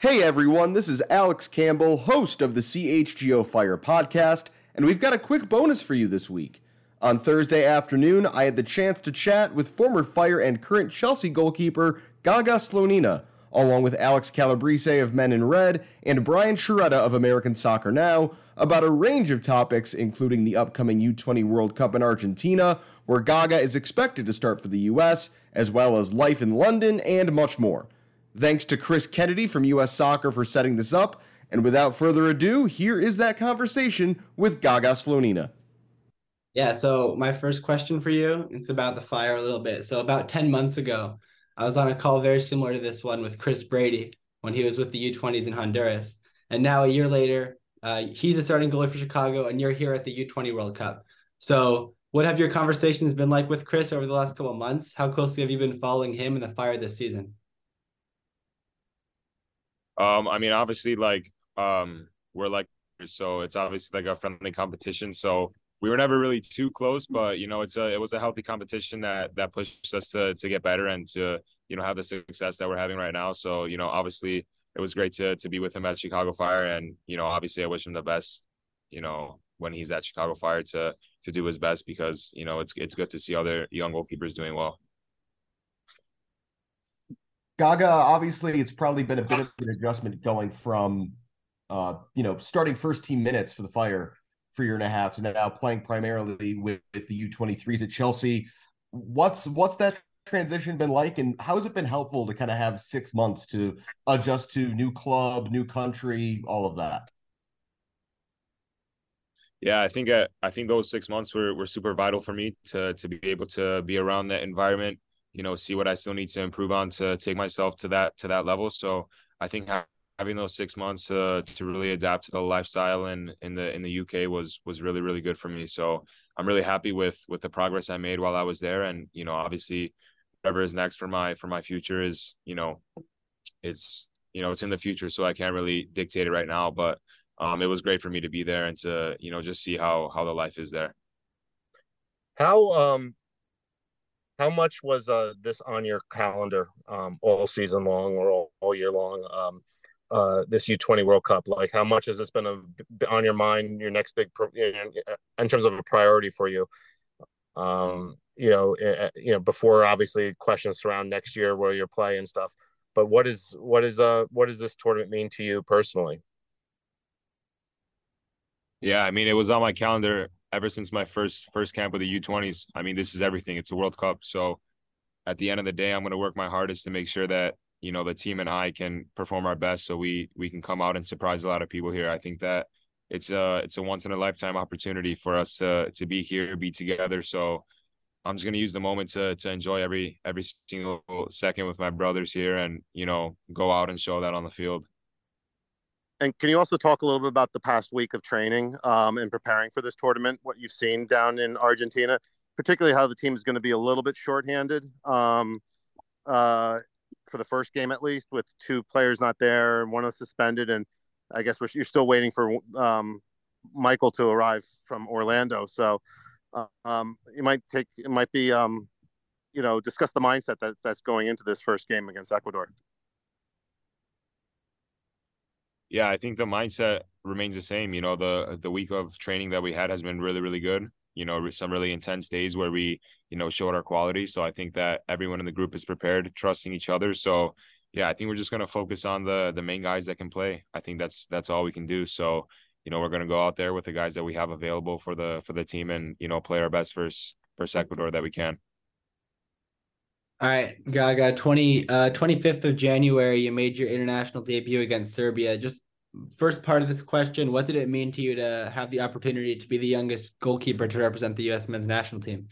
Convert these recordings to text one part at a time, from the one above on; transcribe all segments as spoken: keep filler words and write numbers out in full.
Hey everyone, this is Alex Campbell, host of the C H G O Fire podcast, and we've got a quick bonus for you this week. On Thursday afternoon, I had the chance to chat with former Fire and current Chelsea goalkeeper Gaga Slonina, along with Alex Calabrese of Men in Red and Brian Sciaretta of American Soccer Now, about a range of topics, including the upcoming U twenty World Cup in Argentina, where Gaga is expected to start for the U S, as well as life in London and much more. Thanks to Chris Kennedy from U S Soccer for setting this up, and without further ado, here is that conversation with Gaga Slonina. Yeah, so my first question for you, it's about the Fire a little bit. So about ten months ago, I was on a call very similar to this one with Chris Brady when he was with the U twenties in Honduras. And now a year later, uh, he's a starting goalie for Chicago, and you're here at the U twenty World Cup. So what have your conversations been like with Chris over the last couple of months? How closely have you been following him and the Fire this season? Um, I mean, obviously, like, um, we're like, so it's obviously like a friendly competition. So we were never really too close, but you know, it's a it was a healthy competition that that pushed us to to get better and to you know have the success that we're having right now. So you know, obviously, it was great to to be with him at Chicago Fire, and you know, obviously, I wish him the best. You know, when he's at Chicago Fire to to do his best because you know it's it's good to see other young goalkeepers doing well. Gaga, obviously, it's probably been a bit of an adjustment going from, uh, you know, starting first team minutes for the Fire for a year and a half to now playing primarily with, with the U twenty-threes at Chelsea. What's what's that transition been like, and how has it been helpful to kind of have six months to adjust to new club, new country, all of that? Yeah, I think uh, I think those six months were were super vital for me to to be able to be around that environment. You know, see what I still need to improve on to take myself to that to that level. So I think having those six months uh, to really adapt to the lifestyle in in the in the U K was was really really good for me. So I'm really happy with with the progress I made while I was there. And you know, obviously, whatever is next for my for my future is you know, it's you know it's in the future, so I can't really dictate it right now. But um, it was great for me to be there and to you know just see how how the life is there. How um how much was uh this on your calendar um all season long or all, all year long? Um uh this U twenty World Cup, like how much has this been a, on your mind, your next big pro, in terms of a priority for you? Um you know, uh, you know before obviously questions surround next year where you're playing and stuff. But what is what is uh what does this tournament mean to you personally? Yeah, I mean, it was on my calendar ever since my first first camp with the U twenties. I mean, this is everything. It's a World Cup. So at the end of the day, I'm going to work my hardest to make sure that, you know, the team and I can perform our best so we we can come out and surprise a lot of people here. I think that it's a it's a once in a lifetime opportunity for us to to be here, be together. So I'm just going to use the moment to to enjoy every every single second with my brothers here and, you know, go out and show that on the field. And can you also talk a little bit about the past week of training um, and preparing for this tournament, what you've seen down in Argentina, particularly how the team is going to be a little bit shorthanded um, uh, for the first game, at least, with two players not there and one is suspended. And I guess we're, you're still waiting for um, Michael to arrive from Orlando. So uh, um, you might take, it might be, um, you know, discuss the mindset that that's going into this first game against Ecuador. Yeah, I think the mindset remains the same. You know, the the week of training that we had has been really, really good. You know, some really intense days where we, you know, showed our quality. So I think that everyone in the group is prepared, trusting each other. So yeah, I think we're just gonna focus on the the main guys that can play. I think that's that's all we can do. So, you know, we're gonna go out there with the guys that we have available for the for the team and, you know, play our best versus versus Ecuador that we can. All right, Gaga, twenty, uh, twenty-fifth of January, you made your international debut against Serbia. Just first part of this question, what did it mean to you to have the opportunity to be the youngest goalkeeper to represent the U S men's national team?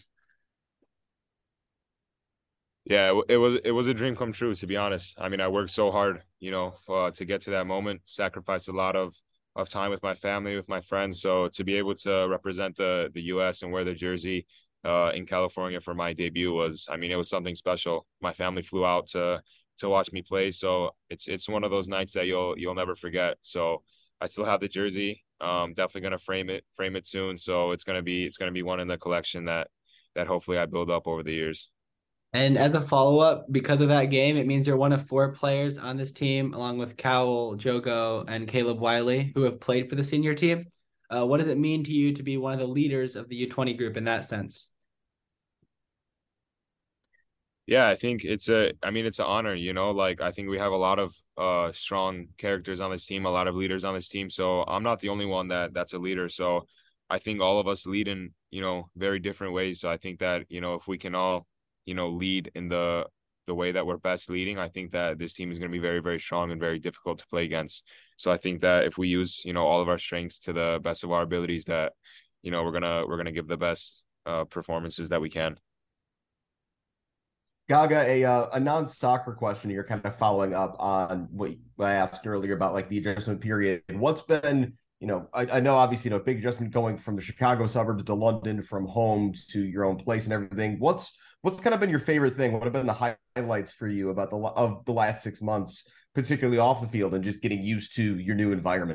Yeah, it, it was it was a dream come true, to be honest. I mean, I worked so hard, you know, for, to get to that moment, sacrificed a lot of of time with my family, with my friends. So to be able to represent the the U S and wear the jersey uh, in California for my debut was, I mean, it was something special. My family flew out to to watch me play, so it's it's one of those nights that you'll you'll never forget. So I still have the jersey. Um, definitely gonna frame it frame it soon. So it's gonna be it's gonna be one in the collection that that hopefully I build up over the years. And as a follow-up, because of that game, it means you're one of four players on this team, along with Cowell, Jogo, and Caleb Wiley, who have played for the senior team. Uh, what does it mean to you to be one of the leaders of the U twenty group in that sense? Yeah, I think it's a, I mean, it's an honor, you know, like I think we have a lot of uh strong characters on this team, a lot of leaders on this team. So I'm not the only one that that's a leader. So I think all of us lead in, you know, very different ways. So I think that, you know, if we can all, you know, lead in the the way that we're best leading, I think that this team is going to be very, very strong and very difficult to play against. So I think that if we use, you know, all of our strengths to the best of our abilities, that, you know, we're gonna we're gonna give the best uh performances that we can. Gaga, a uh, a non-soccer question. You're kind of following up on what I asked earlier about like the adjustment period. What's been, you know, I, I know obviously, you know, big adjustment going from the Chicago suburbs to London, from home to your own place and everything. What's what's kind of been your favorite thing? What have been the highlights for you about the of the last six months, particularly off the field and just getting used to your new environment?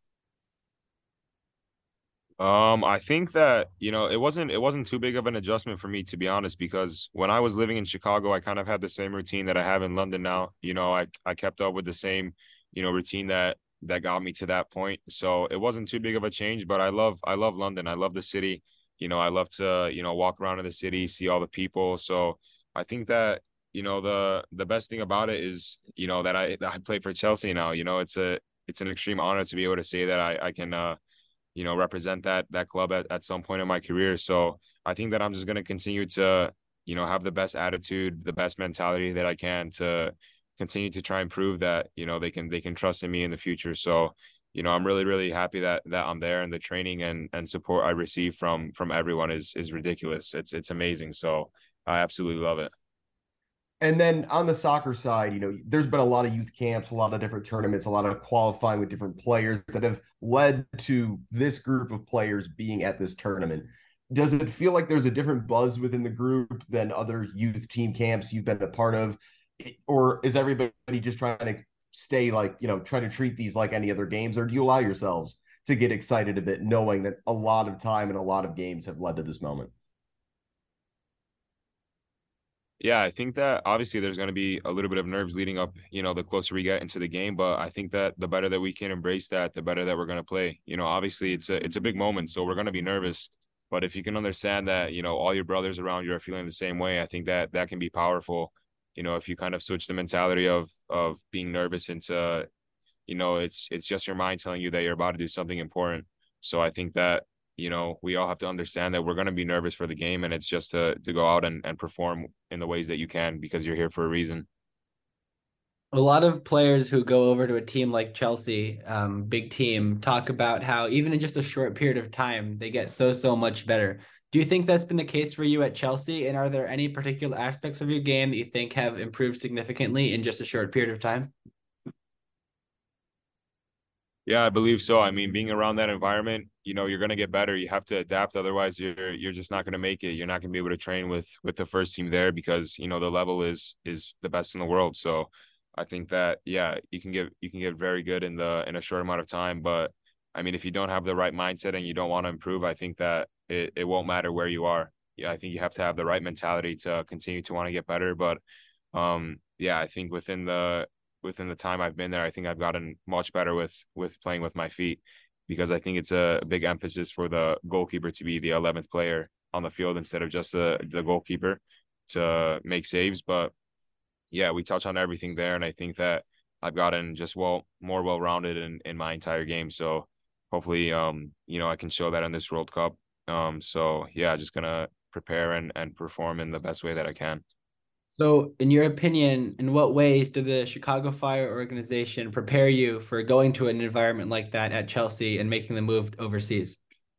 Um, I think that, you know, it wasn't it wasn't too big of an adjustment for me, to be honest, because when I was living in Chicago, I kind of had the same routine that I have in London now. You know, I I kept up with the same, you know, routine that that got me to that point. So it wasn't too big of a change, but I love I love London. I love the city. You know, I love to, you know, walk around in the city, see all the people. So I think that, you know, the the best thing about it is, you know, that I that I play for Chelsea now. You know, it's a it's an extreme honor to be able to say that I I can uh you know, represent that that club at, at some point in my career. So I think that I'm just going to continue to, you know, have the best attitude, the best mentality that I can to continue to try and prove that, you know, they can they can trust in me in the future. So, you know, I'm really, really happy that that I'm there, and the training and and support I receive from from everyone is is ridiculous. It's it's amazing. So I absolutely love it. And then on the soccer side, you know, there's been a lot of youth camps, a lot of different tournaments, a lot of qualifying with different players that have led to this group of players being at this tournament. Does it feel like there's a different buzz within the group than other youth team camps you've been a part of? Or is everybody just trying to stay like, you know, try to treat these like any other games? Or do you allow yourselves to get excited a bit, knowing that a lot of time and a lot of games have led to this moment? Yeah, I think that obviously there's going to be a little bit of nerves leading up, you know, the closer we get into the game. But I think that the better that we can embrace that, the better that we're going to play. You know, obviously it's a it's a big moment, so we're going to be nervous. But if you can understand that, you know, all your brothers around you are feeling the same way, I think that that can be powerful. You know, if you kind of switch the mentality of of being nervous into, you know, it's it's just your mind telling you that you're about to do something important. So I think that, you know, we all have to understand that we're going to be nervous for the game, and it's just to to go out and, and perform in the ways that you can, because you're here for a reason. A lot of players who go over to a team like Chelsea, um, big team, talk about how even in just a short period of time, they get so, so much better. Do you think that's been the case for you at Chelsea? And are there any particular aspects of your game that you think have improved significantly in just a short period of time? Yeah, I believe so. I mean, being around that environment, you know, you're going to get better. You have to adapt. Otherwise, you're you're just not going to make it. You're not going to be able to train with with the first team there, because, you know, the level is is the best in the world. So I think that, yeah, you can get you can get very good in the in a short amount of time. But I mean, if you don't have the right mindset and you don't want to improve, I think that it, it won't matter where you are. Yeah, I think you have to have the right mentality to continue to want to get better. But um, yeah, I think within the within the time I've been there, I think I've gotten much better with with playing with my feet, because I think it's a big emphasis for the goalkeeper to be the eleventh player on the field instead of just the the goalkeeper to make saves. But yeah, we touch on everything there, and I think that I've gotten just well more well rounded in in my entire game. So hopefully, um, you know, I can show that in this World Cup. Um, so yeah, just gonna prepare and and perform in the best way that I can. So, in your opinion, in what ways did the Chicago Fire organization prepare you for going to an environment like that at Chelsea and making the move overseas?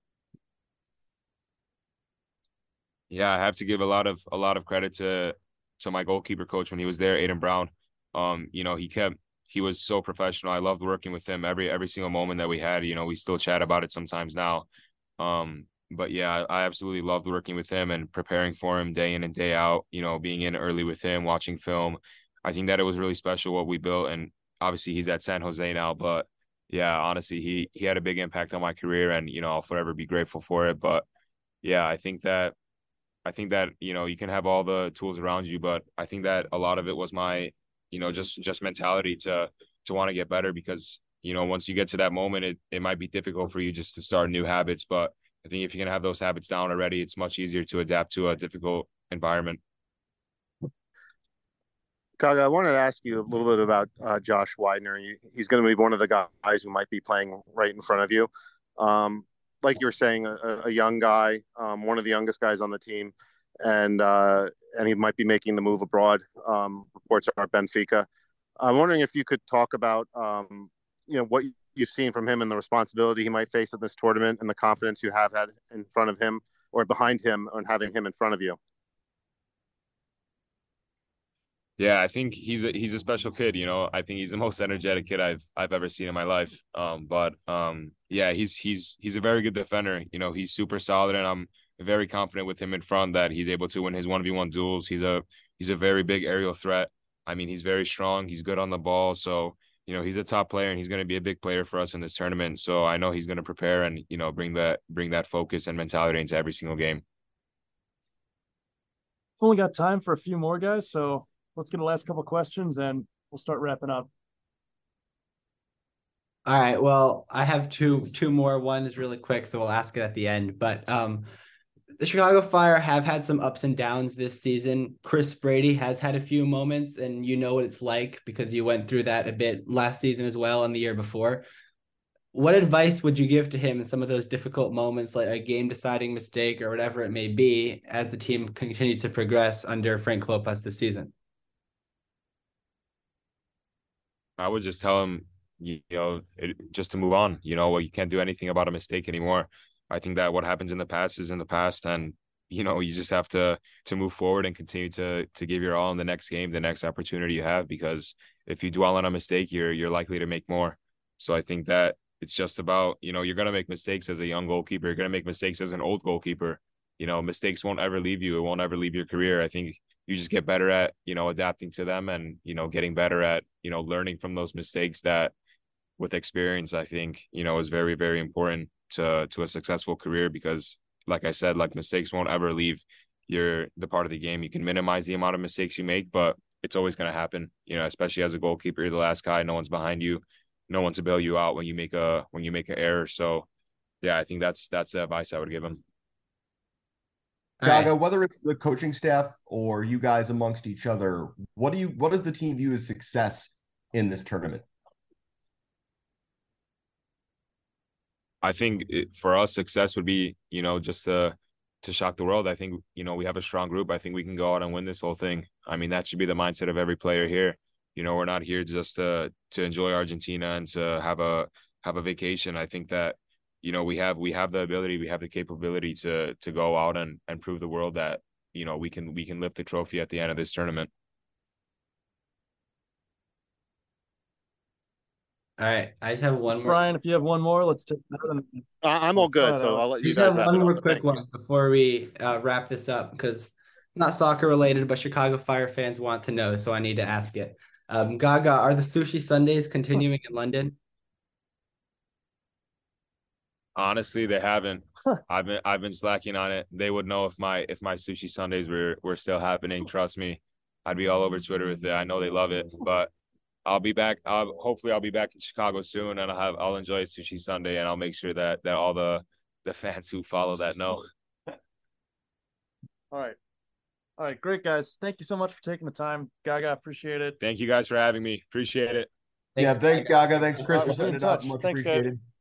Yeah, I have to give a lot of a lot of credit to to my goalkeeper coach when he was there, Aiden Brown. Um, you know, he kept he was so professional. I loved working with him every every single moment that we had. You know, we still chat about it sometimes now. Um, but yeah, I, I absolutely loved working with him and preparing for him day in and day out. You know, being in early with him, watching film. I think that it was really special what we built, and obviously he's at San Jose now. But yeah, honestly, he he had a big impact on my career, and you know, I'll forever be grateful for it. But yeah, I think that I think that, you know, you can have all the tools around you, but I think that a lot of it was my, you know, just just mentality to to want to get better, because, you know, once you get to that moment, it, it might be difficult for you just to start new habits. But I think if you can have those habits down already, it's much easier to adapt to a difficult environment. Gaga, I wanted to ask you a little bit about uh, Josh Widener. He's going to be one of the guys who might be playing right in front of you. Um, like you were saying, a, a young guy, um, one of the youngest guys on the team, and uh, and he might be making the move abroad. Um, reports are Benfica. I'm wondering if you could talk about, um, you know, what you've seen from him and the responsibility he might face in this tournament, and the confidence you have had in front of him or behind him on having him in front of you. Yeah, I think he's a he's a special kid. You know, I think he's the most energetic kid I've I've ever seen in my life. Um, but um, yeah, he's he's he's a very good defender. You know, he's super solid, and I'm very confident with him in front that he's able to win his one v one duels. He's a he's a very big aerial threat. I mean, he's very strong. He's good on the ball. So, you know, he's a top player, and he's going to be a big player for us in this tournament. So I know he's going to prepare and, you know, bring that bring that focus and mentality into every single game. We've only got time for a few more, guys. So let's get the last couple of questions and we'll start wrapping up. All right. Well, I have two two more. One is really quick, so we'll ask it at the end. But um, the Chicago Fire have had some ups and downs this season. Chris Brady has had a few moments, and you know what it's like because you went through that a bit last season as well and the year before. What advice would you give to him in some of those difficult moments, like a game-deciding mistake or whatever it may be, as the team continues to progress under Frank Klopas this season? I would just tell him, you know, it, just to move on. You know, you can't do anything about a mistake anymore. I think that what happens in the past is in the past, and you know, you just have to to move forward and continue to to give your all in the next game, the next opportunity you have. Because if you dwell on a mistake, you're you're likely to make more. So I think that it's just about, you know, you're gonna make mistakes as a young goalkeeper. You're gonna make mistakes as an old goalkeeper. You know, mistakes won't ever leave you. It won't ever leave your career. I think you just get better at, you know, adapting to them and, you know, getting better at, you know, learning from those mistakes. That with experience, I think, you know, is very, very important to to a successful career, because like I said, like mistakes won't ever leave your the part of the game. You can minimize the amount of mistakes you make, but it's always going to happen, you know, especially as a goalkeeper. You're the last guy, no one's behind you, no one to bail you out when you make a when you make an error. So yeah, I think that's that's the advice I would give him. Gaga, right. Whether it's the coaching staff or you guys amongst each other, what do you what does the team view as success in this tournament? I think it, for us, success would be, you know, just to to shock the world. I think, you know, we have a strong group. I think we can go out and win this whole thing. I mean, that should be the mindset of every player here. You know, we're not here just to to enjoy Argentina and to have a have a vacation. I think that, you know, we have we have the ability, we have the capability to to go out and and prove the world that, you know, we can we can lift the trophy at the end of this tournament. All right, I just have one Thanks, more. Brian, if you have one more, let's take that. Uh, I'm all good, so I'll let you guys have wrap one it more up. quick Thank one you. before we uh, wrap this up, because not soccer related, but Chicago Fire fans want to know, so I need to ask it. Um, Gaga, are the sushi Sundays continuing in London? Honestly, they haven't. I've been I've been slacking on it. They would know if my if my sushi Sundays were were still happening. Trust me, I'd be all over Twitter with it. I know they love it, but I'll be back. I'll, hopefully, I'll be back in Chicago soon, and I'll have I'll enjoy Sushi Sunday, and I'll make sure that that all the the fans who follow that know. All right, all right, great guys. Thank you so much for taking the time, Gaga. Appreciate it. Thank you guys for having me. Appreciate it. Thanks, yeah, thanks, Gaga. Gaga. Thanks, Chris, uh, for setting it up. Much Thanks, appreciated. Guys.